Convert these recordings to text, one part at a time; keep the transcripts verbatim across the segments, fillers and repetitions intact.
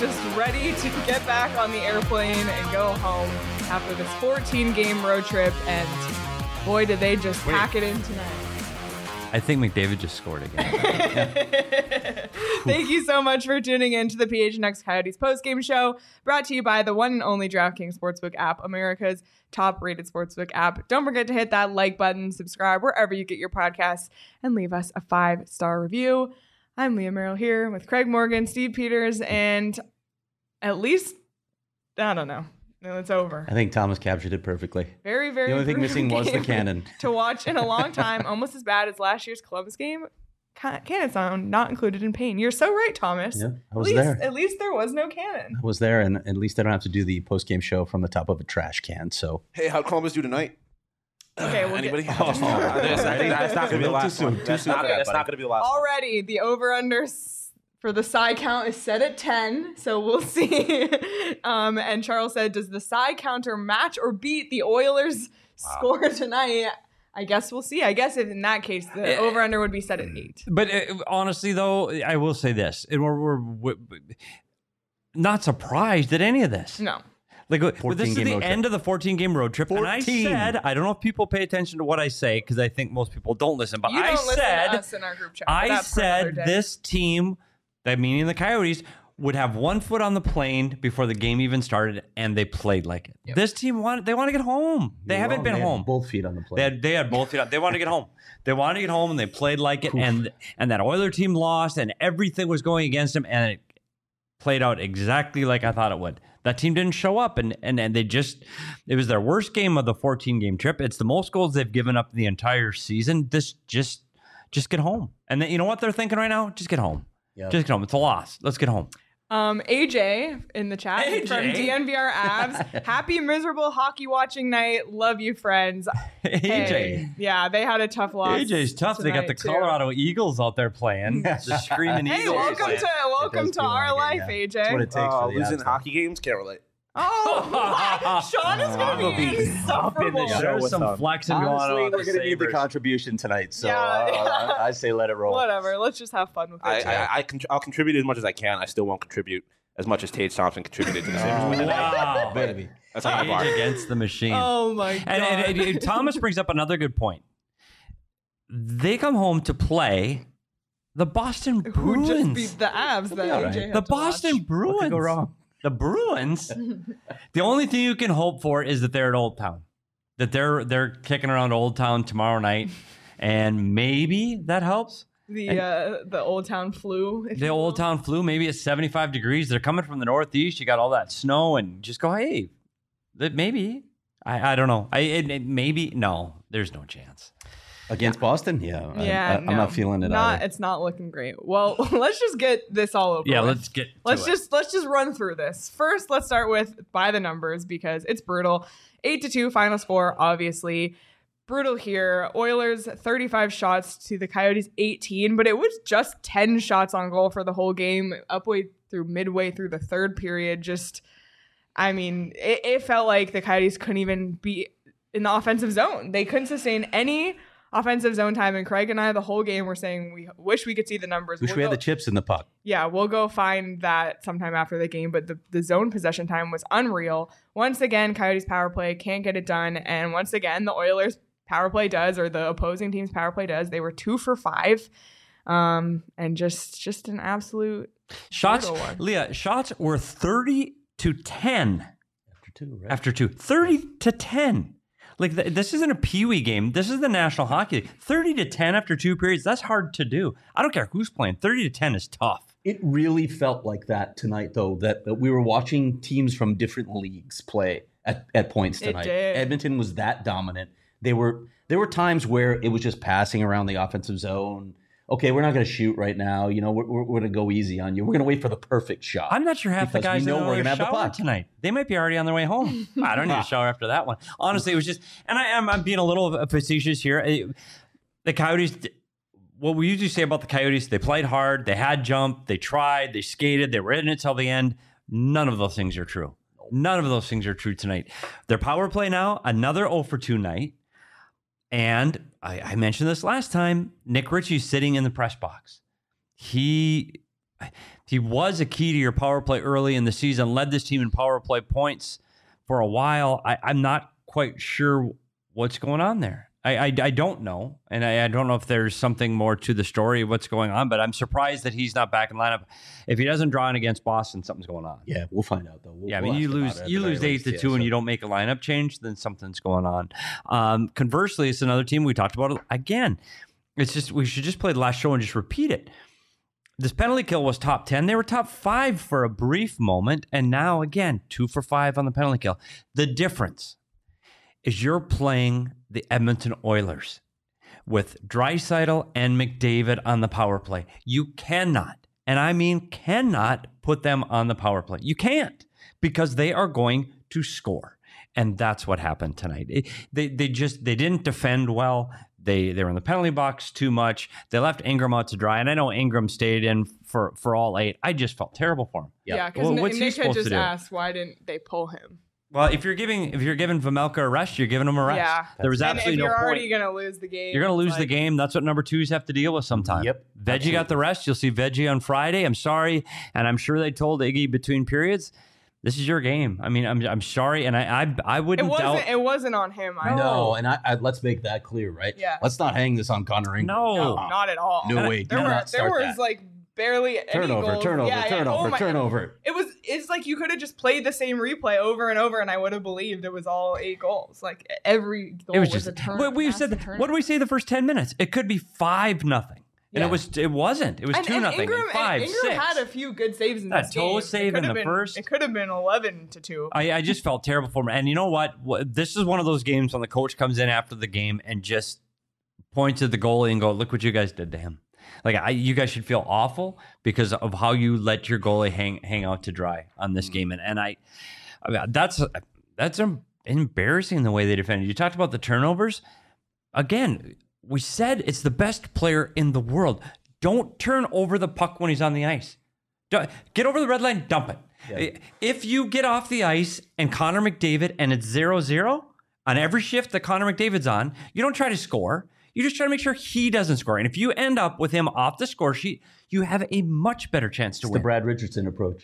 just ready to get back on the airplane and go home after this fourteen game road trip. And boy, did they just Wait. pack it in tonight. I think McDavid just scored again. Thank you so much for tuning in to the P H N X Coyotes postgame show, brought to you by the one and only DraftKings Sportsbook app, America's top-rated sportsbook app. Don't forget to hit that like button, subscribe wherever you get your podcasts, and leave us a five-star review. I'm Leah Merrill here with Craig Morgan, Steve Peters, and at least, I don't know. No, it's over. I think Thomas captured it perfectly. Very, very The only thing missing was the cannon. To watch in a long time, almost as bad as last year's Columbus game. Cannon sound not included in pain. You're so right, Thomas. Yeah, I was at least, there. At least there was no cannon. I was there, and at least I don't have to do the post-game show from the top of a trash can. So, hey, how'd Columbus do tonight? Okay, we'll anybody? Get, oh, that's, that's not going to be the last soon. one. That's not, that's not going to be the last. Already, the over/under for the side count is set at ten, so we'll see. um, and Charles said, "Does the side counter match or beat the Oilers' wow. score tonight?" I guess we'll see. I guess if in that case, the uh, over/under would be set at eight. But uh, honestly, though, I will say this: and we're, we're, we're not surprised at any of this. No. Like, this is the end of the fourteen-game road trip, fourteen. And I said, I don't know if people pay attention to what I say because I think most people don't listen. But you don't I listen said, to us in our group chat, I said this team, that meaning the Coyotes, would have one foot on the plane before the game even started, and they played like it. Yep. This team wanted, they want to get home. They You're haven't wrong. been they home. Both feet on the plane. They had, they had both feet on. They wanted to get home. They wanted to get home, and they played like it. and And that Oiler team lost, and everything was going against them, and it played out exactly like I thought it would. That team didn't show up, and, and and they just, it was their worst game of the fourteen-game trip. It's the most goals they've given up the entire season. This just, just get home. And then, you know what they're thinking right now? Just get home. Yep. Just get home. It's a loss. Let's get home. Um, A J in the chat A J? from D N V R Abs. Happy miserable hockey watching night. Love you, friends. A J. Hey, yeah, they had a tough loss. A J's tough. They got the too. Colorado Eagles out there playing. The screaming hey, Eagles. welcome to welcome to our like life, it, yeah. A J. That's what it takes uh, for the losing abs, hockey games, can't relate. Oh, what? Sean is going to be insufferable. Yeah, There's some them. flexing Honestly, going on. we're going to need the contribution tonight, so Yeah. uh, I say let it roll. Whatever. Let's just have fun with it. I, I, I con- I'll contribute as much as I can. I still won't contribute as much as Tage Thompson contributed to the Sabres win. Wow. Baby. That's how I bar. Age against the machine. Oh, my God. And, and, and, and Thomas brings up another good point. They come home to play the Boston Bruins. Who just beat the Abs that all A J right. had the to Boston watch. Bruins. What could go wrong? The Bruins. The only thing you can hope for is that they're at Old Town. That they're they're kicking around Old Town tomorrow night, and maybe that helps. The And- uh, the Old Town flu. if The you Old will. Town flu, maybe it's seventy-five degrees. They're coming from the Northeast. You got all that snow, and just go, hey, that maybe. I, I don't know. I it, it, maybe no. There's no chance. Against Boston? Yeah. I- Yeah, I, I'm no, not feeling it not, either. It's not looking great. Well, let's just get this all over. Yeah, with. let's get. Let's to it. just let's just run through this. First, let's start with by the numbers because it's brutal. Eight to two final score, obviously. Brutal here. Oilers thirty-five shots to the Coyotes eighteen, but it was just ten shots on goal for the whole game, upway through midway through the third period. Just, I mean, it, it felt like the Coyotes couldn't even be in the offensive zone. They couldn't sustain any offensive zone time, and Craig and I the whole game were saying we wish we could see the numbers. Wish We'll we had go- the chips in the puck. Yeah, we'll go find that sometime after the game, but the, the zone possession time was unreal. Once again, Coyotes power play can't get it done, and once again, the Oilers power play does, or the opposing team's power play does. They were two for five, um, and just just an absolute shots. brutal one. Leah, shots were thirty to ten After two, right? after two. thirty to ten. Like, th- this isn't a peewee game. This is the National Hockey League. thirty to ten after two periods, that's hard to do. I don't care who's playing. thirty to ten is tough. It really felt like that tonight, though, that, that we were watching teams from different leagues play at, at points It tonight. did. Edmonton was that dominant. They were there were times where it was just passing around the offensive zone. Okay, we're not going to shoot right now. You know, we're, we're, we're going to go easy on you. We're going to wait for the perfect shot. I'm not sure half the Because guys we know in we're the gonna have the shower puck. tonight. They might be already on their way home. I don't need a shower after that one. Honestly, it was just, and I am I'm being a little facetious here. It- the Coyotes, what we usually say about the Coyotes, they played hard, they had jump, they tried, they skated, they were in it till the end. None of those things are true. None of those things are true tonight. Their power play now, another oh for two night. And I, I mentioned this last time, Nick Ritchie's sitting in the press box. He, he was a key to your power play early in the season, led this team in power play points for a while. I, I'm not quite sure what's going on there. I, I, I don't know, and I, I don't know if there's something more to the story of what's going on, but I'm surprised that he's not back in lineup. If he doesn't draw in against Boston, something's going on. Yeah, we'll find out, though. We'll, yeah, I we'll mean, you ask about lose it at you the very lose eight least, to yeah, two, and so- you don't make a lineup change, then something's going on. Um, conversely, it's another team we talked about it again. It's just we should just play the last show and just repeat it. This penalty kill was top ten. They were top five for a brief moment, and now again two for five on the penalty kill. The difference is you're playing the Edmonton Oilers with Draisaitl and McDavid on the power play. You cannot, and I mean cannot, put them on the power play. You can't, because they are going to score. And that's what happened tonight. It, they they just they didn't defend well. They they were in the penalty box too much. They left Ingram out to dry. And I know Ingram stayed in for, for all eight. I just felt terrible for him. Yeah, because Well, what's he Nick had supposed to just do? asked why didn't they pull him? Well, if you're giving if you're giving Vamelka a rest, you're giving him a rest. Yeah. There was And if absolutely you're no already point. going to lose the game, You're going to lose it's the like- game. That's what number twos have to deal with sometimes. Yep, Veggie absolutely. got the rest. You'll see Veggie on Friday. I'm sorry. And I'm sure they told Iggy between periods, this is your game. I mean, I'm I'm sorry. And I I, I It wouldn't wasn't. doubt. It wasn't on him. I No, and I, I let's make that clear, right? Yeah. Let's not hang this on Connor Ingram. No. No, not at all. No And way. There Do were not there start was that. like barely any Turnover, goals. turnover, Yeah, yeah. turnover, Oh my- turnover. It was. It's like you could have just played the same replay over and over, and I would have believed it was all eight goals. Like every goal It was was just. a turn. What we massive said. turn. What did we say the first ten minutes? It could be five nothing, and Yeah. it was. It wasn't. It was and, two and nothing. Ingram, and five, and Ingram six. had a few good saves in That this toe game. save It could in have the been- first. It could have been eleven to two. I, I just felt terrible for him. And you know what? What- This is one of those games when the coach comes in after the game and just points at the goalie and go, "Look what you guys did to him." Like I, you guys should feel awful because of how you let your goalie hang hang out to dry on this game. And and I, I mean, that's that's um, embarrassing the way they defended. You talked about the turnovers. Again, we said it's the best player in the world. Don't turn over the puck when he's on the ice. Don't- Get over the red line, dump it. Yeah. If you get off the ice and Connor McDavid and it's zero zero on every shift that Connor McDavid's on, you don't try to score. You just try to make sure he doesn't score. And if you end up with him off the score sheet, you have a much better chance to It's the win. Brad Richardson approach.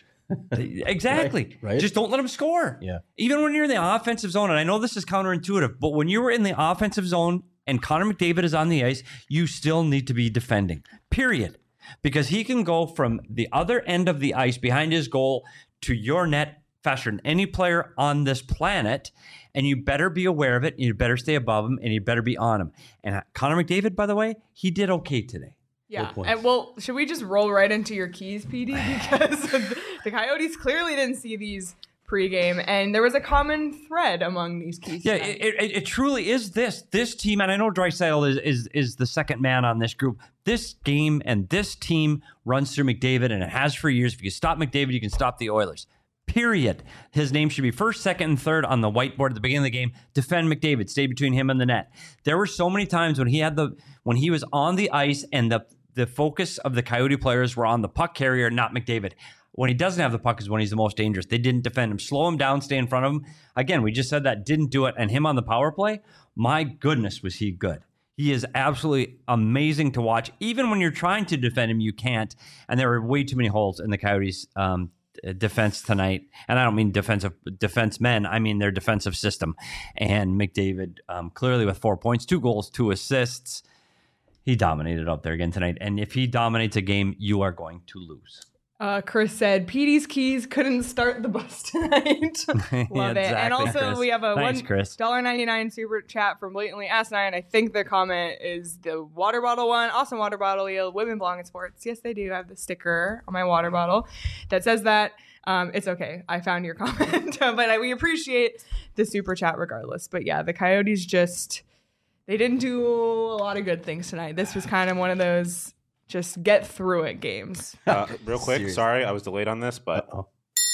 Exactly. Right, right. Just don't let him score. Yeah. Even when you're in the offensive zone, and I know this is counterintuitive, but when you were in the offensive zone and Connor McDavid is on the ice, you still need to be defending. Period. Because he can go from the other end of the ice behind his goal to your net faster than any player on this planet. And you better be aware of it. And you better stay above him and you better be on him. And Connor McDavid, by the way, he did okay today. Yeah. points. And well, should we just roll right into your keys, P D? Because the Coyotes clearly didn't see these pregame, and there was a common thread among these keys. Yeah, tonight. it, it, it truly is this. This team, and I know Draisaitl is, is is the second man on this group. This game and this team runs through McDavid, and it has for years. If you can stop McDavid, you can stop the Oilers. Period. His name should be first, second, and third on the whiteboard at the beginning of the game. Defend McDavid. Stay between him and the net. There were so many times when he had the when he was on the ice and the the focus of the Coyote players were on the puck carrier, not McDavid. When he doesn't have the puck is when he's the most dangerous. They didn't defend him. Slow him down, stay in front of him. Again, we just said that, didn't do it. And him on the power play, my goodness, was he good. He is absolutely amazing to watch. Even when you're trying to defend him, you can't. And there were way too many holes in the Coyotes' um, defense tonight. And I don't mean defensive defense men. I mean their defensive system. And McDavid, um, clearly with four points, two goals, two assists, he dominated out there again tonight. And if he dominates a game, you are going to lose. Uh, Chris said, P D's keys couldn't start the bus tonight. Love Yeah, it. And exactly, also, Chris. we have a Thanks, Chris. one dollar ninety-nine super chat from Blatantly Ask Nine. I think the comment is the water bottle one. Awesome water bottle. Yield. Women belong in sports. Yes, they do. I have the sticker on my water bottle that says that. Um, it's okay. I found your comment. But I, we appreciate the super chat regardless. But yeah, the Coyotes just, they didn't do a lot of good things tonight. This was kind of one of those just get through it games. Uh, real quick, Serious. sorry, I was delayed on this, but Uh-oh.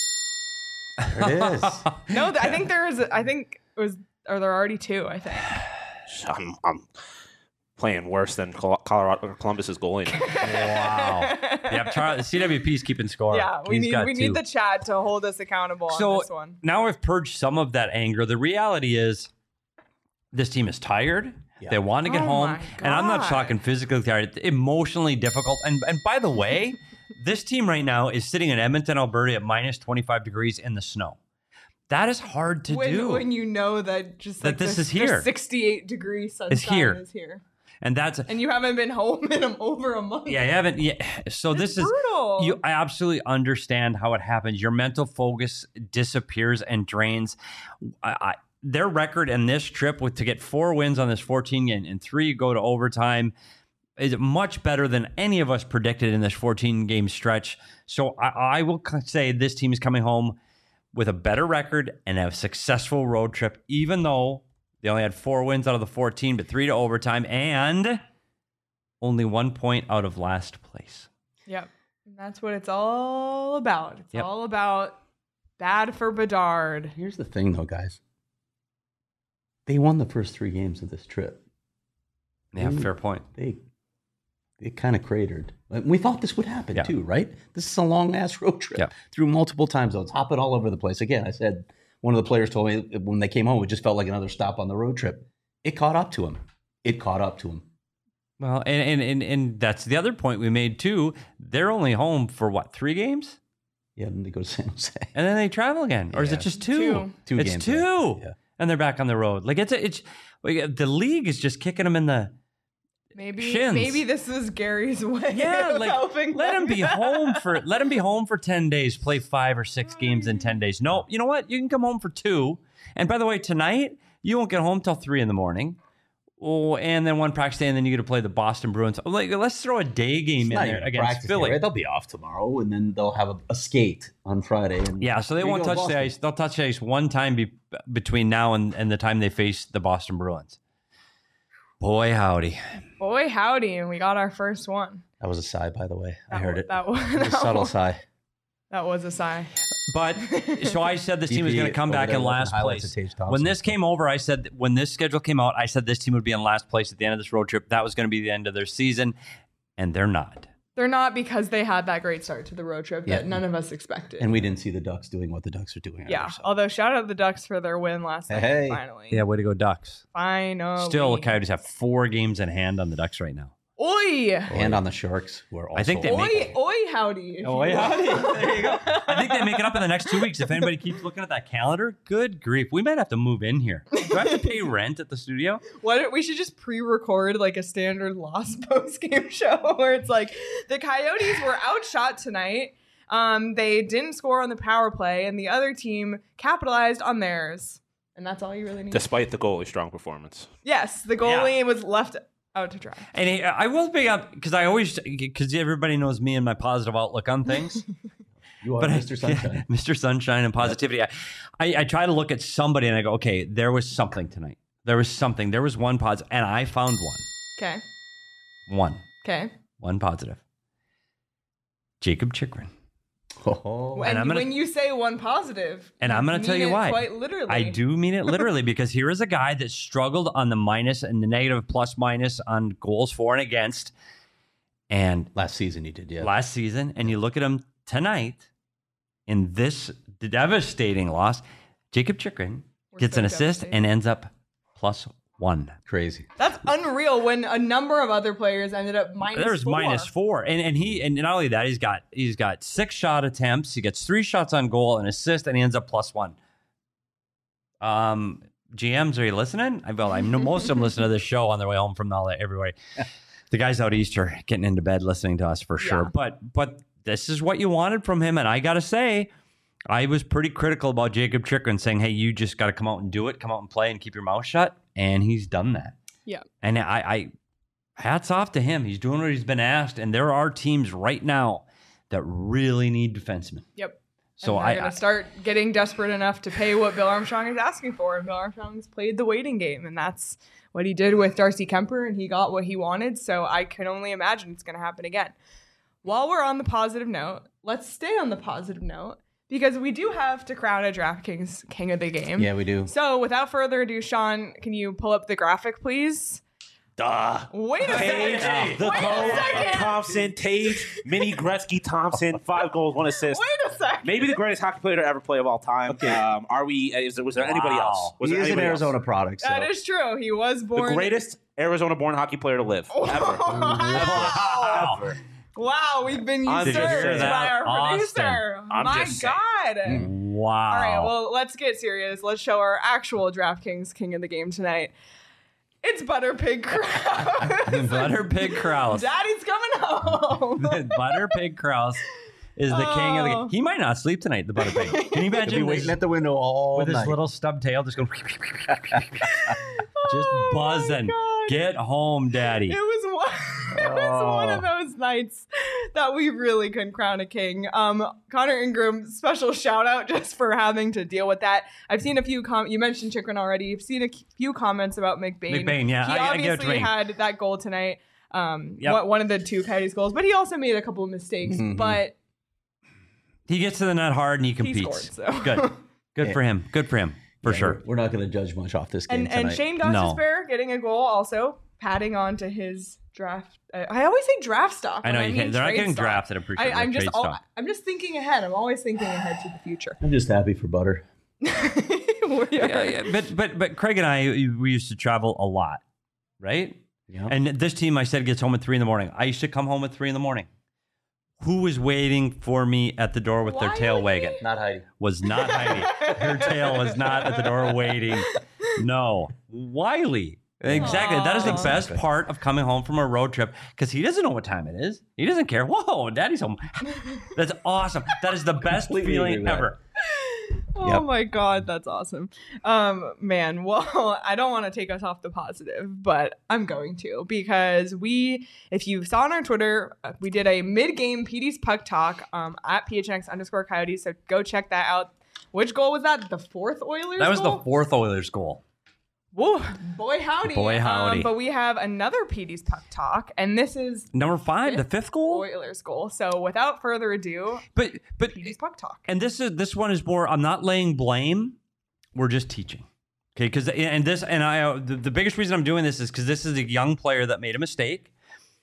There it is. No, th- I think there is. I think it was. Or there are already two. I think. I'm, I'm playing worse than Col- Colorado Columbus's goalie. Wow. Yeah, Charlie, C W P's keeping score. Yeah, we He's need got we two. need the chat to hold us accountable on So this one. now I've purged some of that anger. The reality is this team is tired. Yeah. They want to get Oh home. my And I'm not God. talking physically tired, emotionally difficult. And and by the way, this team right now is sitting in Edmonton, Alberta at minus twenty-five degrees in the snow. That is hard to when, do. when you know that just That like this the, is here. the sixty-eight degree sunshine It's here. is here. and that's And you haven't been home in a, over a month. yeah, you haven't yeah. So It's this is brutal. you I absolutely understand how it happens. Your mental focus disappears and drains. I, I their record in this trip with to get four wins on this fourteen game and three go to overtime is much better than any of us predicted in this fourteen game stretch. So I, I will say this team is coming home with a better record and a successful road trip, even though they only had four wins out of the fourteen, but three to overtime and only one point out of last place. Yep. And that's what it's all about. It's Yep. all about bad for Bedard. Here's the thing, though, guys. They won the first three games of this trip. Yeah, Ooh. fair point. They they kind of cratered. And we thought this would happen Yeah. too, right? This is a long ass road trip Yeah. through multiple time zones, hopping all over the place. Again, I said one of the players told me when they came home, it just felt like another stop on the road trip. It caught up to him. It caught up to him. Well, and, and and and that's the other point we made too. They're only home for what, three games? Yeah, and they go to San Jose. And then they travel again. Or is Yeah. it just two? Two. Two it's games, two. yeah. Yeah. And they're back on the road. Like it's a, it's like, the league is just kicking them in the Maybe Shins. maybe this was Gary's way yeah, of like helping let them. him be home for let him be home for ten days, play five or six games in ten days. No, you know what? You can come home for two. And by the way, tonight you won't get home till three in the morning. Oh, and then one practice day, and then you get to play the Boston Bruins. Like, let's throw a day game It's in not there even a against practice Philly. game, right? They'll be off tomorrow, and then they'll have a, a skate on Friday. And Yeah, so they here you won't go, touch Boston. the ice. They'll touch the ice one time be, between now and, and the time they face the Boston Bruins. Boy, howdy. Boy, howdy, and we got our first one. That was a sigh, by the way. I That heard wa- it. That was, It was a that subtle was, sigh. that was a sigh. But so I said this team was going to come over back there in watching last highlights place. of Tage Thompson. When this came over, I said when this schedule came out, I said this team would be in last place at the end of this road trip. That was going to be the end of their season, and they're not. They're not because they had that great start to the road trip that Yeah. none of us expected. And we didn't see the Ducks doing what the Ducks are doing. yeah. either, so. Although shout out the Ducks for their win last night. Hey. Finally. Yeah, way to go, Ducks. Finally. Still, the Coyotes have four games in hand on the Ducks right now. Oi. And on the Sharks, who are also. I think they Oi, make- oi, howdy. if Oh, you yeah. will. There you go. I think they make it up in the next two weeks. If anybody keeps looking at that calendar, good grief. We might have to move in here. Do I have to pay rent at the studio? What we should just pre-record like a standard Lost post game show where it's like the Coyotes were outshot tonight. Um, they didn't score on the power play, and the other team capitalized on theirs. And that's all you really need. Despite the goalie's strong performance. yes, the goalie was left out to dry. And he, I will bring up, because I always, because everybody knows me and my positive outlook on things. You are But I- Mister Sunshine. Mister Sunshine and positivity. I, I, I try to look at somebody and I go, okay, there was something tonight. There was something. There was one positive, and I found one. Okay. One. Okay. One positive. Jacob Chikrin. Oh, When, I'm gonna- when you say one positive, And I'm going to tell mean you it why. Quite literally. I do mean it literally, because here is a guy that struggled on the minus and the negative plus minus on goals for and against. And last season he did, yeah. last season, and you look at him tonight in this devastating loss, Jacob Chikrin We're gets so an assist devastated. and ends up plus one. Crazy. That's unreal. When a number of other players ended up minus. There's four. minus four, and and he and not only that, he's got he's got six shot attempts. He gets three shots on goal, an assist, and he ends up plus one. Um, G Ms, are you listening? I well, I know most of them listen to this show on their way home from all that everywhere. The guys out east are getting into bed listening to us for sure. Yeah. But but this is what you wanted from him, and I gotta say, I was pretty critical about Jacob Chikrin, saying, "Hey, you just got to come out and do it, come out and play, and keep your mouth shut." And he's done that. Yeah. And I, I hats off to him. He's doing what he's been asked. And there are teams right now that really need defensemen. Yep. So and they're I, gonna I start getting desperate enough to pay what Bill Armstrong is asking for, and Bill Armstrong's played the waiting game, and that's what he did with Darcy Kemper, and he got what he wanted. So I can only imagine it's going to happen again. While we're on the positive note, let's stay on the positive note because we do have to crown a DraftKings King of the Game. Yeah, we do. So without further ado, Sean, can you pull up the graphic, please? Duh. Wait a Tage, second. the Wait a goal, second. Thompson, Tage, Mini Gretzky Thompson, five goals, one assist. Wait a second. Maybe the greatest hockey player to ever play of all time. Um, are we? Is there, was there anybody Wow. else? Was He there is an anybody Arizona else? product. So. That is true. He was The born. greatest Arizona-born hockey player to live. Ever. Wow. Ever. Wow, we've been I'm usurped just saying. by our Austin. producer. I'm My just saying. God. Wow. All right, well, let's get serious. Let's show our actual DraftKings king of the game tonight. It's Butter Pig Kraus. Butter Pig Kraus. Daddy's coming home. Butter Pig Kraus is the king of the Oh. game. He might not sleep tonight, the Butter Pig. Can you He'll be imagine waiting this, at the window all with his night. little stub tail just going just Oh my buzzing. God. Get home, Daddy. It was one. It was one of those nights that we really couldn't crown a king. Um, Connor Ingram, special shout out just for having to deal with that. I've seen a few com. You mentioned Chikrin already. You've seen a few comments about McBain. McBain, yeah, he I- I get what you obviously mean. had that goal tonight. Um, Yep. one- one of the two Coyotes goals, but he also made a couple of mistakes. Mhm. But He gets to the net hard and he he competes. scored. So Good. Good for him. Good for him. For Yeah, sure. We're, we're not going to judge much off this game and tonight. and Shane No. Gostisbehere getting a goal also, padding on to his draft. I, I always say draft stock. I know when you mean can't. They're not trade getting stock. drafted. I'm pretty I, sure. I'm They're just trade al- stock. I'm just thinking ahead. I'm always thinking ahead to the future. I'm just happy for Butter. We are- Yeah, yeah, but but but Craig and I, we used to travel a lot, right? Yeah. And this team, I said, gets home at three in the morning. I used to come home at three in the morning. Who was waiting for me at the door with their tail Wiley? wagging? Not Heidi. Was not Heidi. Her tail was not at the door waiting. No, Wiley. Exactly. That is the Aw. best part of coming home from a road trip because he doesn't know what time it is. He doesn't care. Whoa, Daddy's home. That's awesome. That is the best Completely agree feeling with that. ever. Oh Yep. my God, that's awesome. Um, man, well, I don't want to take us off the positive, but I'm going to because we, if you saw on our Twitter, uh, we did a mid-game P D's Puck Talk um, at P H N X underscore Coyotes. So go check that out. Which goal was that? The fourth Oilers That was goal? the fourth Oilers goal. Whoa, boy howdy. Boy howdy. Um, but we have another P D's Puck Talk, and this is Number five, the fifth goal. Oilers goal. So without further ado, But but P D's Puck Talk. and this is this one is more. I'm not laying blame. We're just teaching. Okay, because and this and I uh, the, the biggest reason I'm doing this is because this is a young player that made a mistake,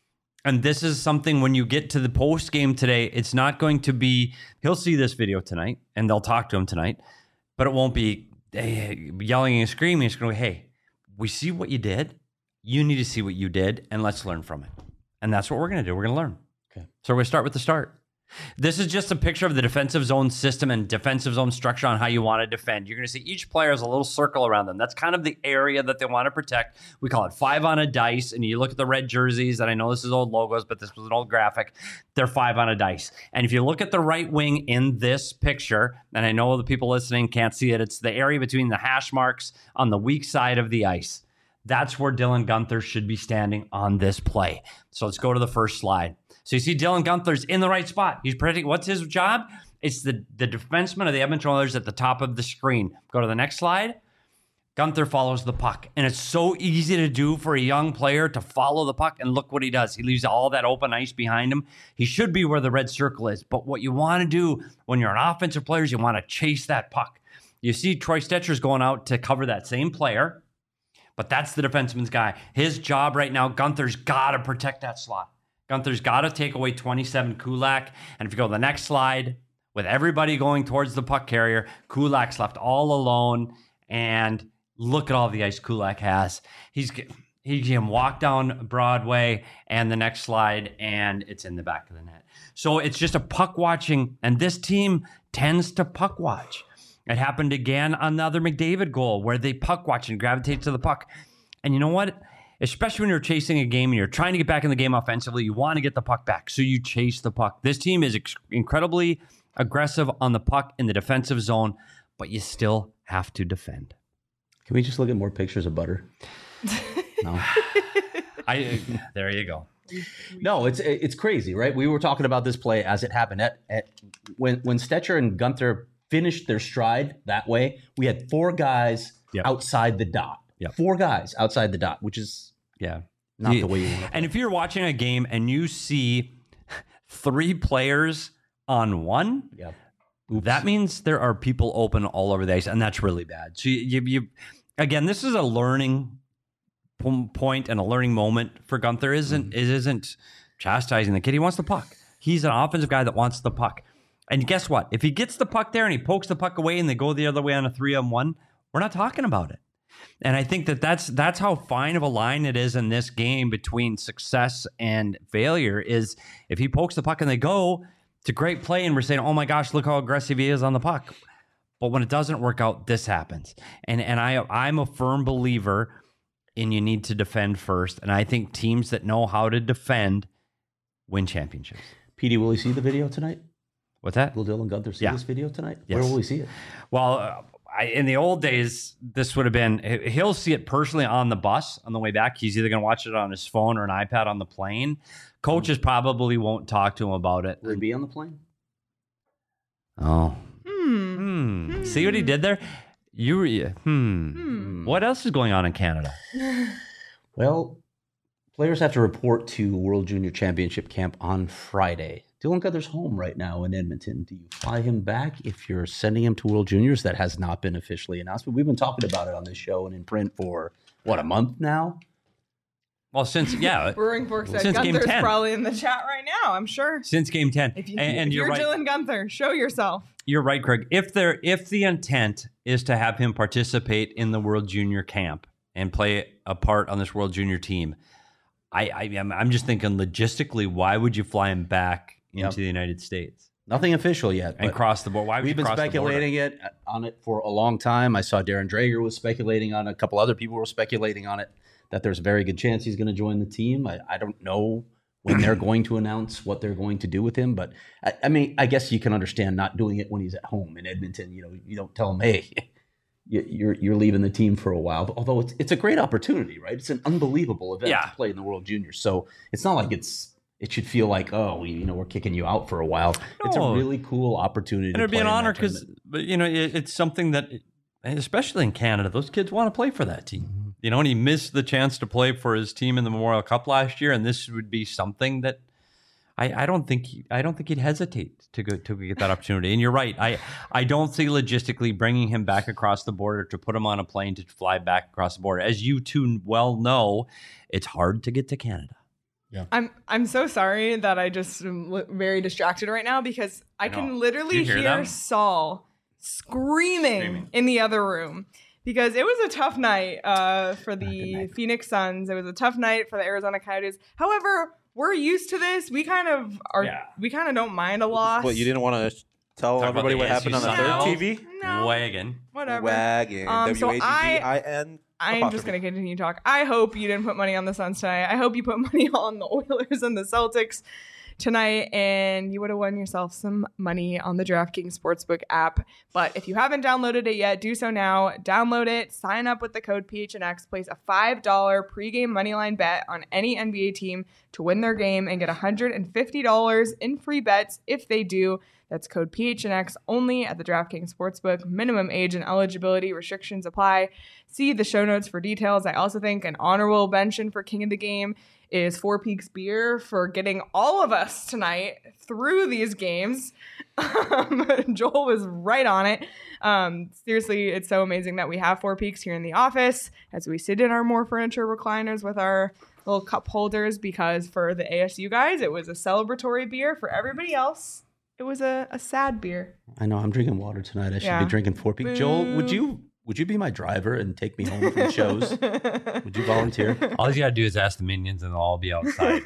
and this is something when you get to the post game today, it's not going to be. He'll see this video tonight, and they'll talk to him tonight, but it won't be hey, yelling and screaming. It's going to be, hey, we see what you did. You need to see what you did, and let's learn from it. And that's what we're going to do. We're going to learn. Okay. So we're going to start with the start. This is just a picture of the defensive zone system and defensive zone structure on how you want to defend. You're going to see each player has a little circle around them. That's kind of the area that they want to protect. We call it five on a dice. And you look at the red jerseys, and I know this is old logos, but this was an old graphic. They're five on a dice. And if you look at the right wing in this picture, and I know the people listening can't see it, it's the area between the hash marks on the weak side of the ice. That's where Dylan Guenther should be standing on this play. So let's go to the first slide. So you see Dylan Guenther's in the right spot. He's predicting. What's his job? It's the, the defenseman of the Edmonton Oilers at the top of the screen. Go to the next slide. Guenther follows the puck. And it's so easy to do for a young player to follow the puck. And look what he does. He leaves all that open ice behind him. He should be where the red circle is. But what you want to do when you're an offensive player is you want to chase that puck. You see Troy Stetcher's going out to cover that same player. But that's the defenseman's guy. His job right now, Guenther's got to protect that slot. Guenther's got to take away twenty-seven Kulak. And if you go to the next slide, with everybody going towards the puck carrier, Kulak's left all alone. And look at all the ice Kulak has. He's he can walk down Broadway and the next slide, and it's in the back of the net. So it's just a puck watching, and this team tends to puck watch. It happened again on the other McDavid goal where they puck watch and gravitate to the puck. And you know what? Especially when you're chasing a game and you're trying to get back in the game offensively, you want to get the puck back. So you chase the puck. This team is ex- incredibly aggressive on the puck in the defensive zone, but you still have to defend. Can we just look at more pictures of Butter? No. I There you go. No, it's it's crazy, right? We were talking about this play as it happened. At, at when when Stetcher and Guenther finished their stride that way, we had four guys Yep. outside the dot. Yep. Four guys outside the dot, which is Yeah. not Yeah. the way you want to. And if you're watching a game and you see three players on one, Yeah. that means there are people open all over the ice, and that's really bad. So you, you, you again, this is a learning p- point and a learning moment for Guenther. Isn't Mm-hmm. it isn't chastising the kid? He wants the puck. He's an offensive guy that wants the puck. And guess what? If he gets the puck there and he pokes the puck away and they go the other way on a three on one, we're not talking about it. And I think that that's that's how fine of a line it is in this game between success and failure. Is if he pokes the puck and they go, it's a great play, and we're saying, "Oh my gosh, look how aggressive he is on the puck." But when it doesn't work out, this happens. And and I I'm a firm believer in you need to defend first. And I think teams that know how to defend win championships. Petey, will he see the video tonight? What's that? Will Dylan Gunther see Yeah. this video tonight? Yes. Where will he see it? Well, uh, I, in the old days, this would have been, he- he'll see it personally on the bus on the way back. He's either going to watch it on his phone or an iPad on the plane. Coaches probably won't talk to him about it. Will he be on the plane? Oh. Hmm. Hmm. See what he did there? You were, hmm. Hmm. What else is going on in Canada? Well, players have to report to World Junior Championship camp on Friday. Dylan Gunther's home right now in Edmonton. Do you fly him back if you're sending him to World Juniors? That has not been officially announced, but we've been talking about it on this show and in print for, what, a month now? Well, since, yeah. Brewing Fork said Since game Gunther's ten. probably in the chat right now, I'm sure. Since game ten. If, you, and and if you're, you're, right. Dylan Gunther, show yourself. You're right, Craig. If there, if the intent is to have him participate in the World Junior camp and play a part on this World Junior team, I, I am I'm just thinking logistically, why would you fly him back into Yep. the United States Nothing official yet. and but cross the board? Why would We've you been cross the border? speculating it on it for a long time. I saw Darren Drager was speculating on it. A couple other people were speculating on it, that there's a very good chance he's going to join the team. I, I don't know when they're going to announce what they're going to do with him, but I, I mean, I guess you can understand not doing it when he's at home in Edmonton. You know, you don't tell him, hey, you- you're you're leaving the team for a while. Although it's it's a great opportunity, right? It's an unbelievable event Yeah. to play in the World Juniors. So it's not like it's it should feel like, oh, we, you know, we're kicking you out for a while. It's a No. really cool opportunity. And to it'd be play an in that honor because, tournament. but you know, it, it's something that, especially in Canada, those kids want to play for that team. You know, and he missed the chance to play for his team in the Memorial Cup last year, and this would be something that I, I don't think he, I don't think he'd hesitate to go to get that opportunity. And you're right, I I don't see logistically bringing him back across the border to put him on a plane to fly back across the border. As you two well know, it's hard to get to Canada. I'm I'm so sorry that I just am li- very distracted right now because I, I know. can Do literally you hear hear, them? Saul screaming, Screaming. in the other room because it was a tough night uh, for good the night. Phoenix Suns. It was a tough night for the Arizona Coyotes. However, we're used to this. We kind of are. Yeah. We kind of don't mind a loss. What, you didn't want to tell Talk about everybody the what happened on the A S U third Sun. T V? No, Wagon. whatever. Wagon. Um, so W A G G I N. I'm just going to continue to talk. I hope you didn't put money on the Suns tonight. I hope you put money on the Oilers and the Celtics tonight, and you would have won yourself some money on the DraftKings Sportsbook app. But if you haven't downloaded it yet, do so now. Download it, sign up with the code P H N X, place a five dollars pregame moneyline bet on any N B A team to win their game and get one hundred fifty dollars in free bets if they do. That's code P H N X only at the DraftKings Sportsbook. Minimum age and eligibility restrictions apply. See the show notes for details. I also think an honorable mention for King of the Game is Four Peaks Beer for getting all of us tonight through these games. Um, Joel was right on it. Um, seriously, it's so amazing that we have Four Peaks here in the office as we sit in our more furniture recliners with our little cup holders because for the A S U guys, it was a celebratory beer. For everybody else, it was a, a sad beer. I know I'm drinking water tonight. I should Yeah. be drinking Four Peaks. Joel, would Boo. you would you be my driver and take me home from shows? Would you volunteer? All you gotta do is ask the minions, and they'll all be outside.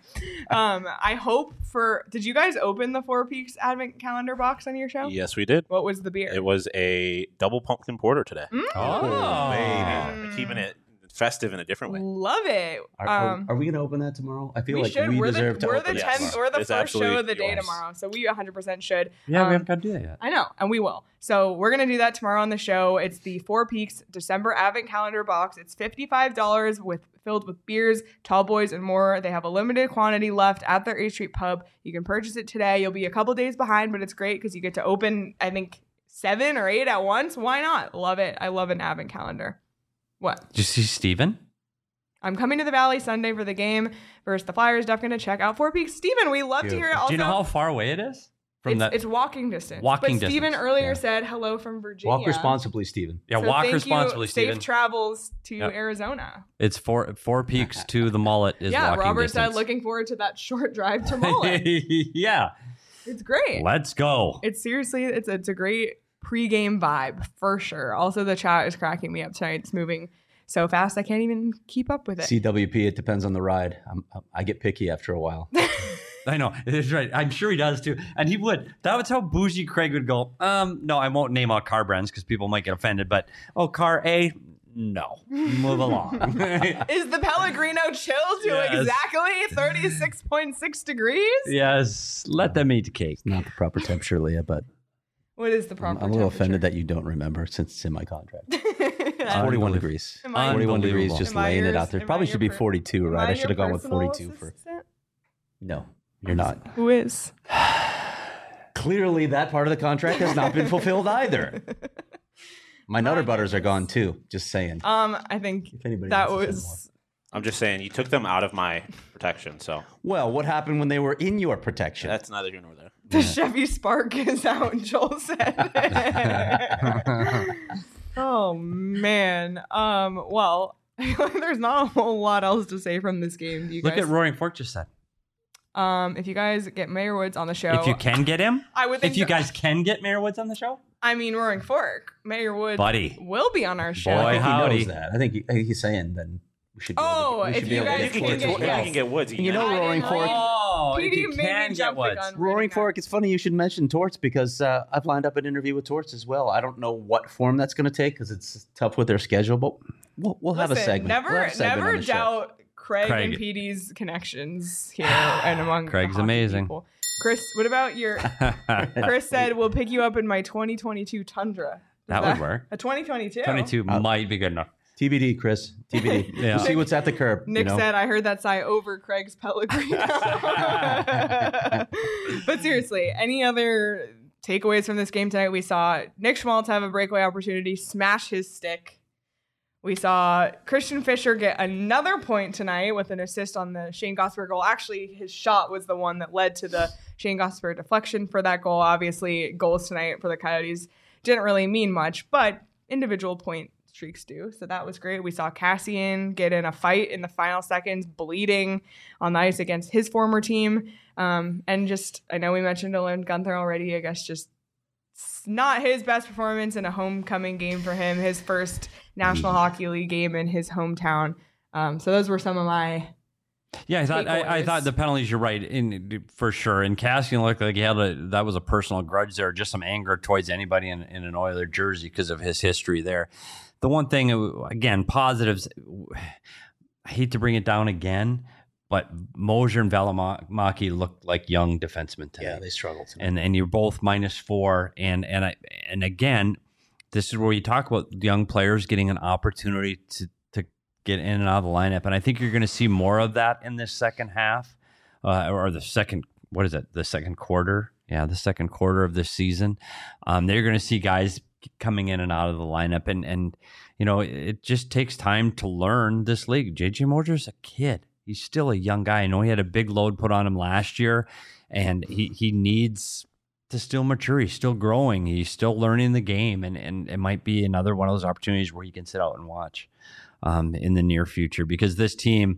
um, I hope for. Did you guys open the Four Peaks Advent calendar box on your show? Yes, we did. What was the beer? It was a double pumpkin porter today. Mm. Oh, Baby. We're keeping it festive in a different way. Love it. Are, are- Um, are we going to open that tomorrow? I feel we like should. we we're deserve the to we're open the it Yes. tenth. tomorrow. We're the It's first show absolutely of the day yours. tomorrow, so we one hundred percent should. Yeah, Um, we haven't got to do that yet. I know, and we will. So we're gonna do that tomorrow on the show. It's the Four Peaks December Advent Calendar box. It's fifty-five dollars with filled with beers, tall boys, and more. They have a limited quantity left at their A Street Pub. You can purchase it today. You'll be a couple days behind, but it's great because you get to open, I think, seven or eight at once. Why not? Love it. I love an Advent calendar. What? Did you see Steven? I'm coming to the Valley Sunday for the game versus the Flyers. Definitely gonna check out Four Peaks. Steven, we love to hear it. Also, Do you know how far away it is from it's, that? it's walking distance. Walking but Steven distance, earlier yeah. said hello from Virginia. Walk responsibly, Stephen. yeah, So walk thank responsibly, you. Steven. Safe travels to Yep. Arizona. It's four four peaks to the mullet is Yeah, walking Robert distance. said looking forward to that short drive to Mullet. yeah, It's great. let's go. It's seriously, it's it's a great pregame vibe for sure. Also, the chat is cracking me up tonight. It's moving so fast I can't even keep up with it. C W P, it depends on the ride. I'm, I get picky after a while. I know. It's right. I'm sure he does too. And he would. That was how bougie Craig would go. Um, no, I won't name out car brands because people might get offended. But, oh, car A, no. Move along. Is the Pellegrino chill to Yes. exactly thirty-six point six degrees? Yes. Let them eat the cake. It's not the proper temperature, Leah, but What is the I'm, proper I'm a little temperature? offended that you don't remember since it's in my contract. Am forty-one degrees. Am I- forty-one degrees, Unbelievable. just Am I laying it yours- out there. am I Probably your should be per- forty-two, right? I I should your have gone with personal forty-two for. assistant? No, you're not. Who is? Clearly, that part of the contract has not been fulfilled either. My Nutter Butters are gone too. Just saying. Um, I think If anybody that wants to send was. I'm just saying, you took them out of my protection, so Well, what happened when they were in your protection? that's neither here nor there. The Chevy Spark is out, Joel said. Oh man. Um. Well, there's not a whole lot else to say from this game. Do you Look guys? at Roaring Fork just said. Um. If you guys get Mayor Woods on the show, If you can get him, I would think. if you that- guys can get Mayor Woods on the show, I mean, Roaring Fork, Mayor Woods, Buddy. will be on our show. Boy, I think howdy. he knows that. I think he, I think he's saying then we should. Be Oh, able to, we if should be you able to guys You can can get, get- Tor- yes. you can get Woods. And you know I Roaring didn't Fork. like- oh, P if D you made me can get jump the Woods. gun. Roaring reading that. Fork. It's funny you should mention Torts because uh, I've lined up an interview with Torts as well. I don't know what form that's going to take because it's tough with their schedule, but we'll, we'll have a Listen, segment. Never, We'll have a segment never on the show. doubt Craig, Craig. and P D's connections here and among the Craig's hockey amazing. people. Chris, what about your? Chris said we'll pick you up in my twenty twenty-two Tundra. Is That would work. A twenty twenty-two. twenty-two Uh, might be good enough. T B D, Chris. T B D. Yeah. We'll see what's at the curb. Nick you know? said, I heard that sigh over Craig's Pellegrino. But seriously, any other takeaways from this game tonight? We saw Nick Schmaltz have a breakaway opportunity, smash his stick. We saw Christian Fischer get another point tonight with an assist on the Shane Gosper goal. Actually, his shot was the one that led to the Shane Gosper deflection for that goal. Obviously, goals tonight for the Coyotes didn't really mean much, but individual point streaks do. So that was great. We saw Cassian get in a fight in the final seconds, bleeding on the ice against his former team. Um, and just, I know we mentioned Dylan Gunther already. I guess just not his best performance in a homecoming game for him, his first National Hockey League game in his hometown. Um, so those were some of my Yeah, I thought I, I takeaways. thought the penalties. You're right, in for sure. And Cassian looked like he had a that was a personal grudge there, just some anger towards anybody in, in an Oiler jersey because of his history there. The one thing, again, positives. I hate to bring it down again, but Mosier and Valimaki looked like young defensemen today. Yeah, they struggled. too. and and you're both minus four, and and I and again, this is where you talk about young players getting an opportunity to to get in and out of the lineup, and I think you're going to see more of that in this second half, uh, or the second what is it, the second quarter? Yeah, the second quarter of this season. Um, they're going to see guys coming in and out of the lineup, and and you know it just takes time to learn this league. J J Mosier's a kid. He's still a young guy. I know he had a big load put on him last year, and he, he needs to still mature. He's still growing. He's still learning the game, and, and it might be another one of those opportunities where he can sit out and watch um, in the near future. Because this team,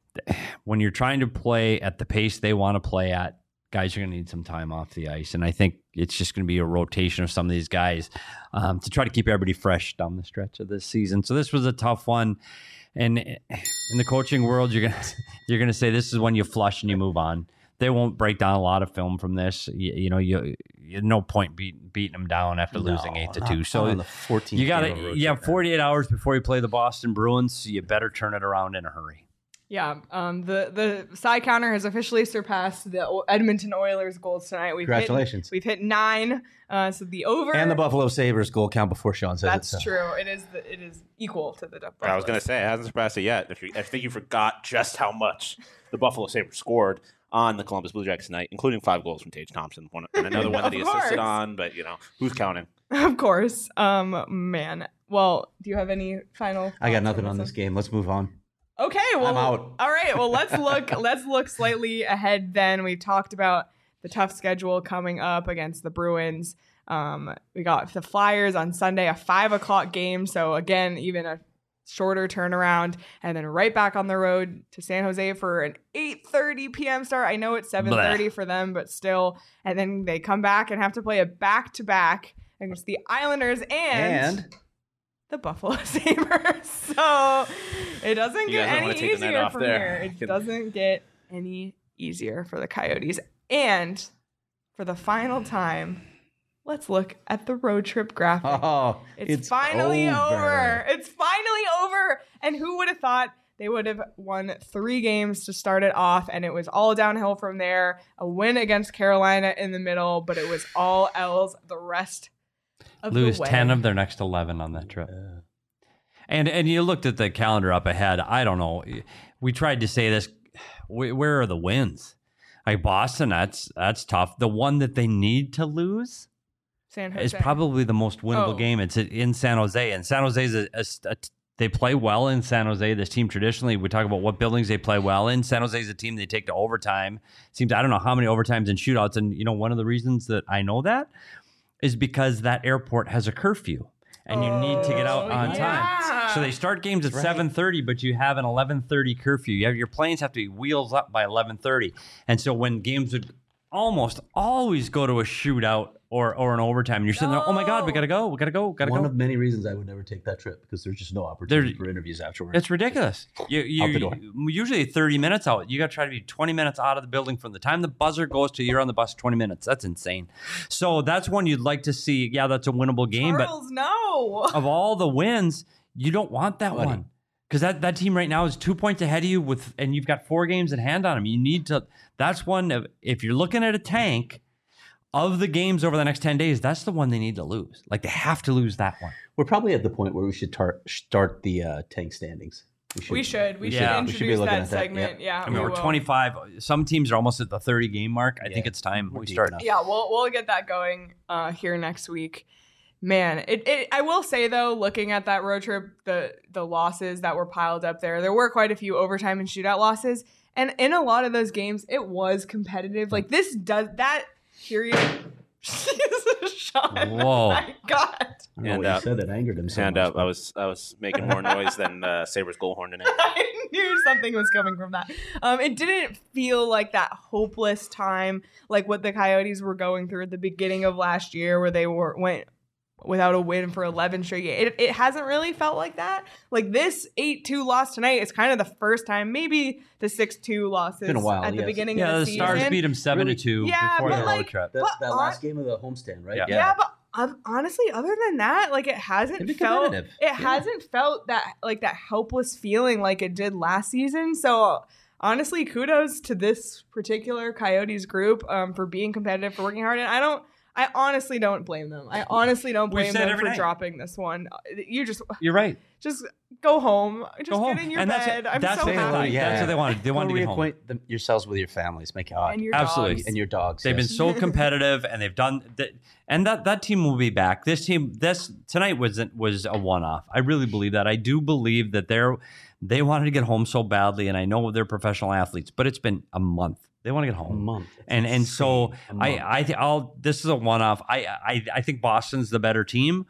when you're trying to play at the pace they want to play at, guys are going to need some time off the ice. And I think it's just going to be a rotation of some of these guys um, to try to keep everybody fresh down the stretch of this season. So this was a tough one. And in the coaching world, you're gonna you're gonna say this is when you flush and you move on. They won't break down a lot of film from this. You, you know, you, you no point beat, beating them down after No, losing eight to not- two. not So on the fourteenth you got game of a to road you have trip, man. forty-eight hours before you play the Boston Bruins. So you better turn it around in a hurry. Yeah, um, the the side counter has officially surpassed the O- Edmonton Oilers goals tonight. We've Congratulations. Hit, we've hit nine. Uh, so the over And the Buffalo Sabres goal count before Sean says That's it. so. true. It is the, it is equal to the. I was gonna say it hasn't surpassed it yet. If you, I think you forgot just how much the Buffalo Sabres scored on the Columbus Blue Jackets tonight, including five goals from Tage Thompson, one, and another one that he Of course. assisted on. But you know, who's counting? Of course. Um, man. Well, do you have any final? I got thoughts nothing on one? this game. Let's move on. Okay, well, I'm out. All right, well, let's look. let's look slightly ahead. Then we talked about the tough schedule coming up against the Bruins. Um, we got the Flyers on Sunday, a five o'clock game. So again, even a shorter turnaround, and then right back on the road to San Jose for an eight thirty p.m. start. I know it's seven thirty for them, but still. And then they come back and have to play a back to back against the Islanders and, And the Buffalo Sabres. So it doesn't You get guys don't wanna any take the night easier off from there. here. It Can- doesn't get any easier for the Coyotes. And for the final time, let's look at the road trip graphic. oh, It's, finally over. It's finally over. And who would have thought they would have won three games to start it off, and it was all downhill from there. A win against Carolina in the middle, but it was all L's the rest of Lose the way. ten of their next eleven on that trip. And and you looked at the calendar up ahead. I don't know. We tried to say this. Wh- Where are the wins? Like Boston, that's that's tough. The one that they need to lose San Jose. is probably the most winnable Oh. game. It's in San Jose, and San Jose is a, a, a they play well in San Jose. This team traditionally, we talk about what buildings they play well in. San Jose is a team they take to overtime. Seems I don't know how many overtimes and shootouts, and you know one of the reasons that I know that is because that airport has a curfew, and you need to get out Oh, on yeah. time. So they start games at Right. seven thirty, but you have an eleven thirty curfew. You have your planes have to be wheels up by eleven thirty, and so when games would almost always go to a shootout or or an overtime, and you're sitting there, oh my god, we gotta go, we gotta go, gotta One go. of many reasons I would never take that trip because there's just no opportunity There- for interviews afterwards. It's ridiculous. You, you, Out the door. Usually thirty minutes out. You got to try to be twenty minutes out of the building from the time the buzzer goes to you're on the bus twenty minutes. That's insane. So that's one you'd like to see. Yeah, that's a winnable game. Charles, no. But of all the wins, you don't want that Buddy. one. Because that, that team right now is two points ahead of you with, and you've got four games in hand on them. You need to, that's one, of, if you're looking at a tank of the games over the next ten days, that's the one they need to lose. Like they have to lose that one. We're probably at the point where we should tar- start the uh, tank standings. We should. We Yeah. should We should be introduce looking that at that, segment. yep. Yeah. I mean, we we're will. twenty-five. Some teams are almost at the thirty game mark. I think Yeah. it's time We're we deep start. enough. Yeah, we'll we'll get that going uh, here next week. Man, it, it I will say though, looking at that road trip, the the losses that were piled up there, there were quite a few overtime and shootout losses, and in a lot of those games, it was competitive. Like this does that period. Sean, Whoa. my God. I don't know Hand what up. you said that angered him so Hand much, up. I but- was I was making more noise than uh, Sabres goalhorn tonight. I knew something was coming from that. Um, it didn't feel like that hopeless time, like what the Coyotes were going through at the beginning of last year, where they were went without a win for eleven straight games. It, it hasn't really felt like that. Like this eight two loss tonight is kind of the first time, maybe the six two losses Been a while, at the yes. beginning Yeah, of the the, Stars season. beat them seven Really? to two Yeah, before but the road like- trip. That, But that on- last game of the homestand, right? Yeah. Yeah, but um, honestly, other than that, like it hasn't It'd be felt it competitive. Yeah. hasn't felt that like that helpless feeling like it did last season. So honestly, kudos to this particular Coyotes group um, for being competitive, for working hard, and I don't. I honestly don't blame them. I honestly don't We've blame said them every for night. dropping this one. You just You're right. just go home. Just Go home. get in your and that's bed. it. I'm that's so what they happy. wanted. Yeah. That's what they wanted. They wanted Go to get home. reacquaint them, yourselves with your families. Make it hot. And your Absolutely. dogs. And your dogs. They've yes. been so competitive, and they've done that. And that that team will be back. This team, this tonight was was a one off. I really believe that. I do believe that they're they wanted to get home so badly, and I know they're professional athletes, but it's been a month. They want to get a home. month. and and so Insane. A month. I I think I'll this is a one off. I, I I think Boston's the better team,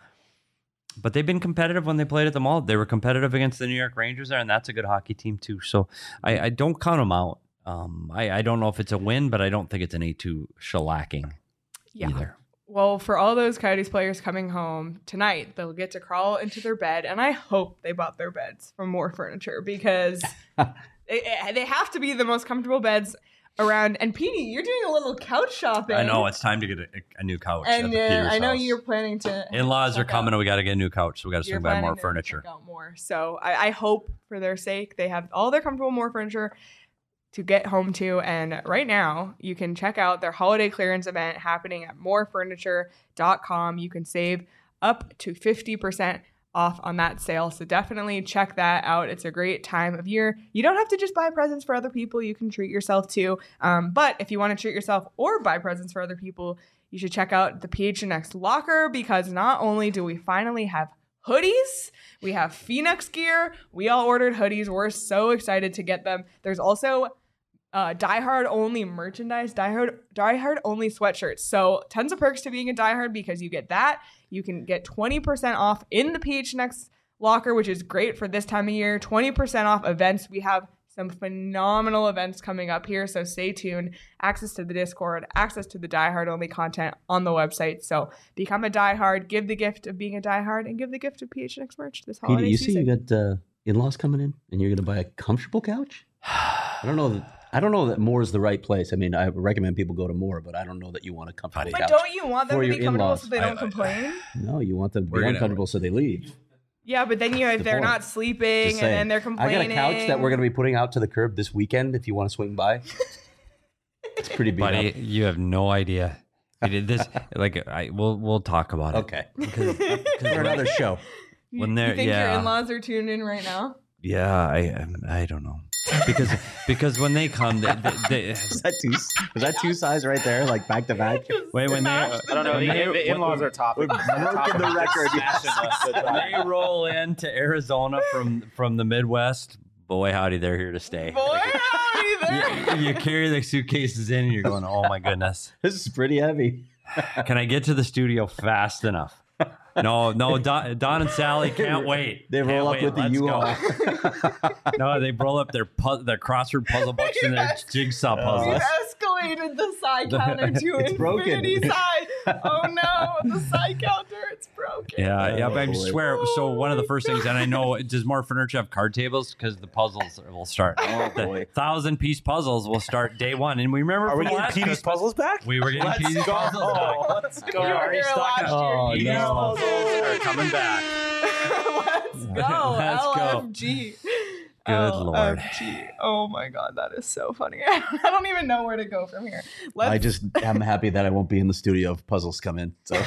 but they've been competitive when they played at the Mall. They were competitive against the New York Rangers there, and that's a good hockey team too. So I, I don't count them out. Um, I I don't know if it's a win, but I don't think it's an eight two shellacking Yeah. either. Well, for all those Coyotes players coming home tonight, they'll get to crawl into their bed, and I hope they bought their beds from More Furniture because it, it- they have to be the most comfortable beds around. And Petey, you're doing a little couch shopping. I know it's time to get a, a new couch. and at the uh, Peters I know house. you're planning to. In-laws are check coming, out- and we got to get a new couch. So we got to you're swing by planning More to Furniture. check out more. So I, I hope for their sake they have all their comfortable More Furniture to get home to. And right now, you can check out their holiday clearance event happening at more furniture dot com. You can save up to fifty percent off on that sale. So definitely check that out. It's a great time of year. You don't have to just buy presents for other people. You can treat yourself too. Um, but if you want to treat yourself or buy presents for other people, you should check out the P H N X locker, because not only do we finally have hoodies, we have Phoenix gear. We all ordered hoodies. We're so excited to get them. There's also uh, Die Hard only merchandise, Die Hard, Die Hard only sweatshirts. So tons of perks to being a Die Hard, because you get that. You can get twenty percent off in the P H N X locker, which is great for this time of year. twenty percent off events. We have Some phenomenal events coming up here, so stay tuned. Access to the Discord, access to the diehard only content on the website. So become a diehard, give the gift of being a diehard, and give the gift of P H N X merch this holiday Peter, you season. see, you got uh, in-laws coming in, and you're going to buy a comfortable couch. I don't know that. I don't know that Moore is the right place. I mean, I recommend people go to Moore, but I don't know that you want a comfortable But couch. don't you want them for to be your comfortable in-laws. so they don't I- I- complain? No, you want them to We're be gonna- uncomfortable so they leave. Yeah, but then you if the they're point. not sleeping Just and then saying. they're I complaining. got a couch that we're going to be putting out to the curb this weekend if you want to swing by. It's pretty beat Buddy, up. you have no idea. We did this. Like, I we'll we'll talk about it. Okay. Because, because For when, another show. You- when you they're- think your yeah. in-laws are tuned in right now? yeah, I I don't know. Because because when they come, they, they, they, Is that two? Was that two size right there, like back to back? wait when they Smash I don't know. when The, they- the in-laws are top. We're broken the record. when they roll into Arizona from from the Midwest, boy howdy, they're here to stay. Boy, howdy there. You, you carry the suitcases in, and you're going, oh my goodness. This is pretty heavy. Can I get to the studio fast enough? No, no, Don, Don and Sally can't wait. They roll Can't up wait. with the Let's U-Haul. go. No, they roll up their pu- their crossword puzzle books and their Yes. jigsaw We've puzzles. escalated the side counter to It's infinity broken. side. Oh no, the side counter, it's broken. Yeah, yeah, but I Oh, boy. swear. So Oh one of the my first things, and I know, does more furniture have card tables? Because the puzzles will start. Oh, the boy. thousand piece puzzles will start day one. And we remember Are we from getting last P D's Christmas, puzzles back? we were getting P D's puzzles back. Let's You were here last Oh, year. You P D's no. know. puzzles are coming back. Let's go. Let's go. L F G. Good Lord. L F G. Oh my God, that is so funny. I don't even know where to go from here. Let's, I just am happy that I won't be in the studio if puzzles come in. So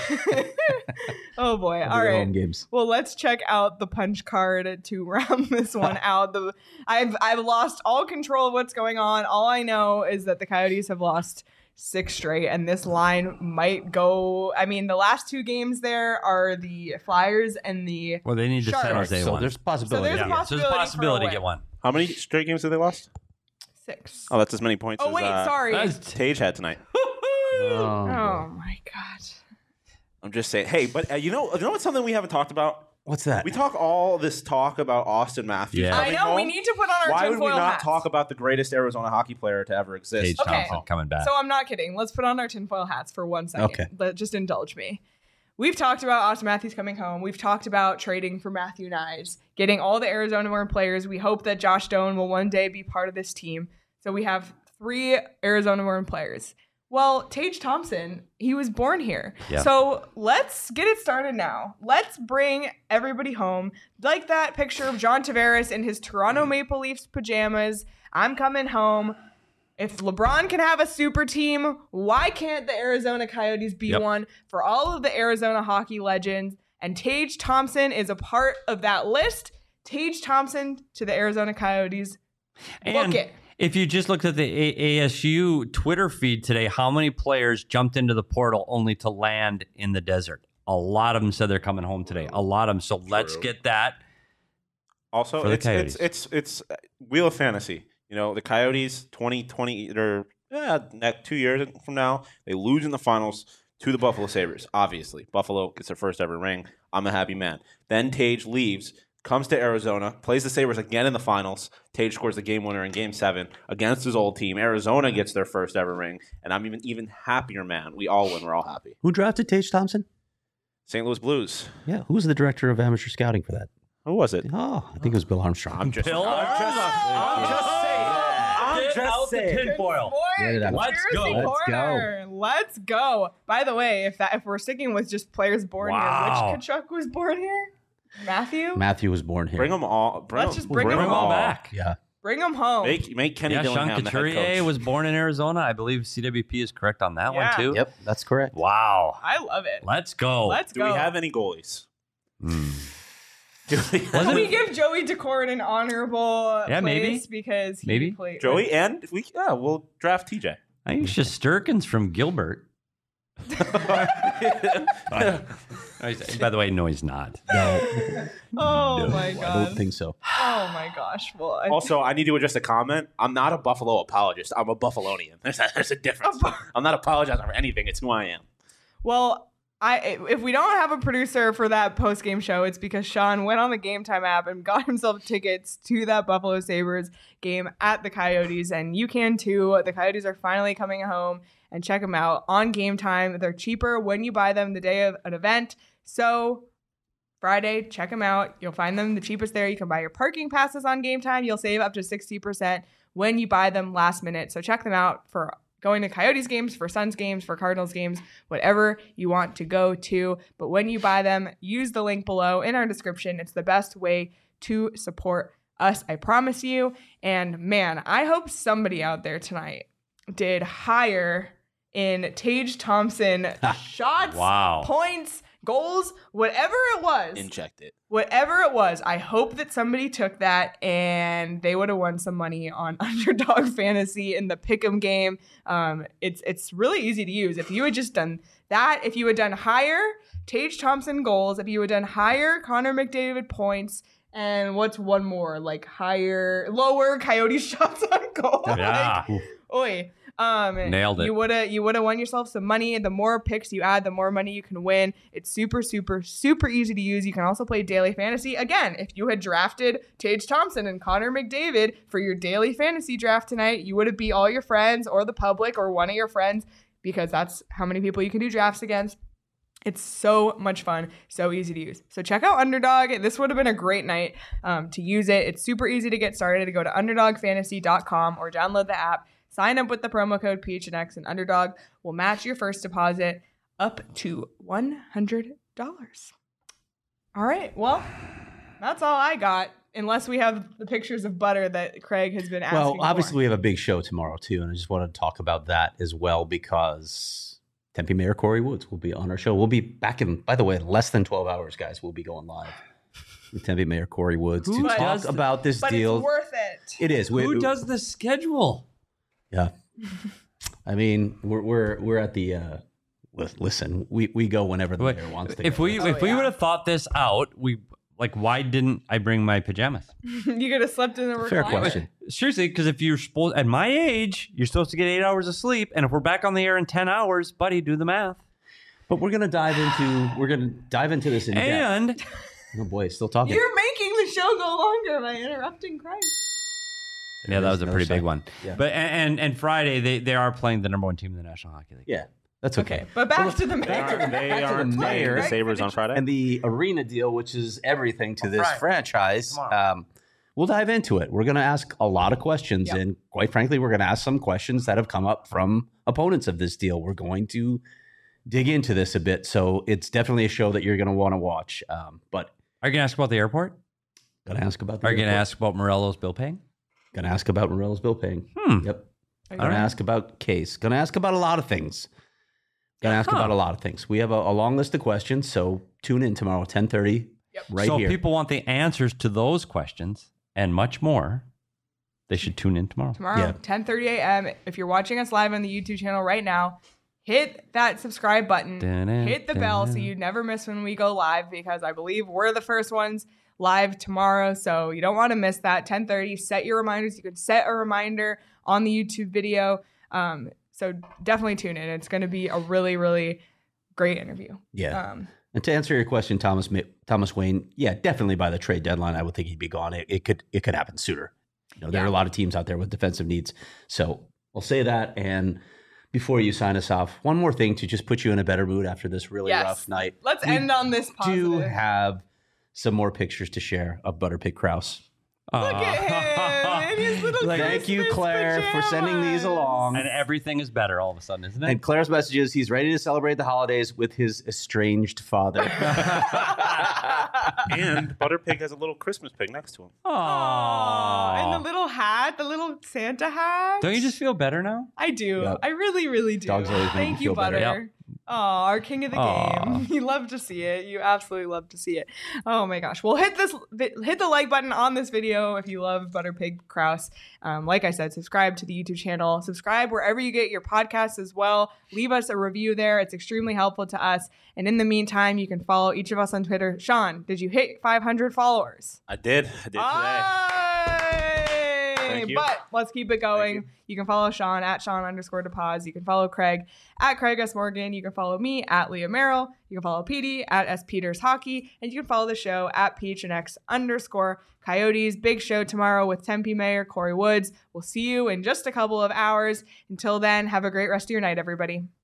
oh boy. I'll All be at right. home games. Well, let's check out the punch card to round this one out. The I've I've lost all control of what's going on. All I know is that the Coyotes have lost six straight, and this line might go. I mean, the last two games there are the Flyers and the. Well, they need to Sharks. San Jose So one. there's possibility. there's a yeah, so there's a possibility for a possibility to win. get one. How many straight games have they lost? Six. Oh, that's as many points Oh as wait, uh, sorry. That's Tage had tonight. Oh, Oh boy. my God. I'm just saying. Hey, but uh, you know, you know what's something we haven't talked about? What's that? We talk all this talk about Austin Matthews. Yeah. I coming know. We home. need to put on our Why would we tinfoil not hats. talk about the greatest Arizona hockey player to ever exist? Tage Okay. Thompson coming back. So I'm not kidding. Let's put on our tinfoil hats for one second. Okay. But just indulge me. We've talked about Austin Matthews coming home. We've talked about trading for Matthew Knies, getting all the Arizona-born players. We hope that Josh Doan will one day be part of this team. So we have three Arizona-born players. Well, Tage Thompson, he was born here. Yeah. So let's get it started now. Let's bring everybody home. Like that picture of John Tavares in his Toronto Maple Leafs pajamas. I'm coming home. If LeBron can have a super team, why can't the Arizona Coyotes be Yep. one for all of the Arizona hockey legends? And Tage Thompson is a part of that list. Tage Thompson to the Arizona Coyotes. Book And it. if you just looked at the A- ASU Twitter feed today, how many players jumped into the portal only to land in the desert? A lot of them said they're coming home today. A lot of them. So let's get that. Also, For the it's, it's Coyotes. it's it's uh, Wheel of Fantasy. You know, the Coyotes twenty twenty or yeah, next two years from now, they lose in the finals to the Buffalo Sabres. Obviously, Buffalo gets their first ever ring. I'm a happy man. Then Tage leaves, comes to Arizona, plays the Sabres again in the finals. Tage scores the game winner in Game Seven against his old team. Arizona gets their first ever ring, and I'm even even happier, man. We all win. We're all happy. Who drafted Tage Thompson? Saint Louis Blues. Yeah, who was the director of amateur scouting for that? Who was it? Oh, I think it was Bill Armstrong. I'm just. Bill I'm just, I'm just saying. I'm Get just out the saying. tinfoil. Boy, Get it out. Let's conspiracy go. Let's corner. Let's go. By the way, if that if we're sticking with just players born Wow. here, which Kachuk was born here? Matthew? Matthew was born here. Bring them all. Bring Let's them, just bring Bring them all back. Yeah. Bring him home. Make make Kenny Yeah, Sean Dillingham the head Couturier coach. was born in Arizona. I believe C W P is correct on that Yeah. one too. Yep, that's correct. Wow. I love it. Let's go. Let's Do go. we have any goalies? Hmm. Do we have Can Wasn't we it- give Joey Decord an honorable Yeah, maybe. place because he Maybe. played Joey and if we yeah we'll draft T J. I think Shesterkin's from Gilbert. By the way, no, he's not. No, Oh no, my I god. don't think so. Oh my gosh. Well, I, Also, I need to address a comment. I'm not a Buffalo apologist. I'm a Buffalonian. There's a, there's a difference. A Bu- I'm not apologizing for anything. It's who I am. well, I if we don't have a producer for that post game show, it's because Sean went on the Game Time app and got himself tickets to that Buffalo Sabres game at the Coyotes, and you can too. The Coyotes are finally coming home, and check them out on Game Time. They're cheaper when you buy them the day of an event. So Friday, check them out. You'll find them the cheapest there. You can buy your parking passes on Game Time. You'll save up to sixty percent when you buy them last minute. So check them out for going to Coyotes games, for Suns games, for Cardinals games, whatever you want to go to. But when you buy them, use the link below in our description. It's the best way to support us, I promise you. And man, I hope somebody out there tonight did higher in Tage Thompson shots, Wow. points, goals, whatever it was. Inject it. Whatever it was, I hope that somebody took that and they would have won some money on Underdog Fantasy in the Pick'em game. Um, it's it's really easy to use. If you had just done that, if you had done higher Tage Thompson goals, if you had done higher Connor McDavid points, and what's one more? Like higher, lower Coyote shots on goal. Yeah. Like, oi. Um, Nailed it. You would have you would have won yourself some money. The more picks you add, the more money you can win. It's super, super, super easy to use. You can also play daily fantasy. Again, if you had drafted Tage Thompson and Connor McDavid for your daily fantasy draft tonight, you would have beat all your friends or the public or one of your friends, because that's how many people you can do drafts against. It's so much fun, so easy to use. So check out Underdog. This would have been a great night um, to use it. It's super easy to get started. Go to underdog fantasy dot com or download the app. Sign up with the promo code P H N X, and Underdog will match your first deposit up to one hundred dollars. All right, well, that's all I got, unless we have the pictures of butter that Craig has been asking Well, obviously for. we have a big show tomorrow too, and I just wanted to talk about that as well, because Tempe Mayor Corey Woods will be on our show. We'll be back in, by the way, in less than twelve hours, guys. We'll be going live with Tempe Mayor Corey Woods Who to does talk about this But deal. it's worth it. It is. We- Who does the schedule? Yeah. I mean, we're we're we're at the uh li- listen, we, we go whenever the Wait, mayor wants to If go. we Oh, if we yeah. would have thought this out, we like why didn't I bring my pajamas? You could have slept in the recliner. Fair question. Seriously, because if you're supposed at my age, you're supposed to get eight hours of sleep, and if we're back on the air in ten hours, buddy, do the math. But we're gonna dive into we're gonna dive into this in depth. And Oh boy, still talking. You're making the show go longer by interrupting Craig. yeah, that was a Another pretty big side. one. Yeah. But and and Friday they, they are playing the number one team in the National Hockey League. Yeah, that's okay. Okay, but back to the They mayor. are, they Back to are the playing mayor. the Sabres on Friday. And the arena deal, which is everything to this Friday. franchise. Tomorrow. Um, we'll dive into it. We're going to ask a lot of questions. Yep. And quite frankly, we're going to ask some questions that have come up from opponents of this deal. We're going to dig into this a bit. So it's definitely a show that you're going to want to watch. Um, but Are you gonna ask about the airport? going to ask about the Are you gonna airport. ask about Morello's bill paying? Going to ask about Morello's bill paying. Hmm. Yep. Are you Going to ready? ask about case. Going to ask about a lot of things. Going to ask Huh. about a lot of things. We have a, a long list of questions. So tune in tomorrow, ten thirty, Yep. right so here. if people want the answers to those questions and much more, they should tune in tomorrow. Tomorrow, Yeah. ten thirty a.m. If you're watching us live on the YouTube channel right now, hit that subscribe button, Dun-dun, hit the bell so dun-dun. you never miss when we go live, because I believe we're the first ones live tomorrow. So you don't want to miss that. ten thirty, set your reminders. You can set a reminder on the YouTube video. Um, so definitely tune in. It's going to be a really, really great interview. Yeah. Um, And to answer your question, Thomas Ma- Thomas Wayne, yeah, definitely by the trade deadline, I would think he'd be gone. It, it could it could happen sooner. You know, there Yeah. are a lot of teams out there with defensive needs. So I'll say that. And before you sign us off, one more thing to just put you in a better mood after this really Yes. rough night. let's We end on this positive. do have some more pictures to share of Butterpig Kraus. Look at him in his little Thank you, Christmas Claire, for sending these pajamas. along. And everything is better all of a sudden, isn't it? And Claire's message is he's ready to celebrate the holidays with his estranged father. And Butterpig has a little Christmas pig next to him. Aw, and the Aww. little hat, the little Santa hat. Don't you just feel better now? I do. Yep. I really, really do. Dogs always make Thank you you, feel better. Butter. Yep. Oh, our king of the Aw. game. You love to see it. You absolutely love to see it. Oh my gosh. Well, hit this, hit the like button on this video if you love Butterpig Kraus. Um, like I said, subscribe to the YouTube channel. Subscribe wherever you get your podcasts as well. Leave us a review there. It's extremely helpful to us. And in the meantime, you can follow each of us on Twitter. Sean, did you hit five hundred followers? I did. I did today. Aye! Thank you. But let's keep it going. you. You. can follow Sean at Sean underscore DePaz. You can follow Craig at Craig S. Morgan. You can follow me at Leah Merrill. You can follow Petey at S. Peters Hockey. And you can follow the show at P H N X underscore Coyotes. Big show tomorrow with Tempe Mayor Corey Woods. We'll see you in just a couple of hours. Until then, have a great rest of your night, everybody.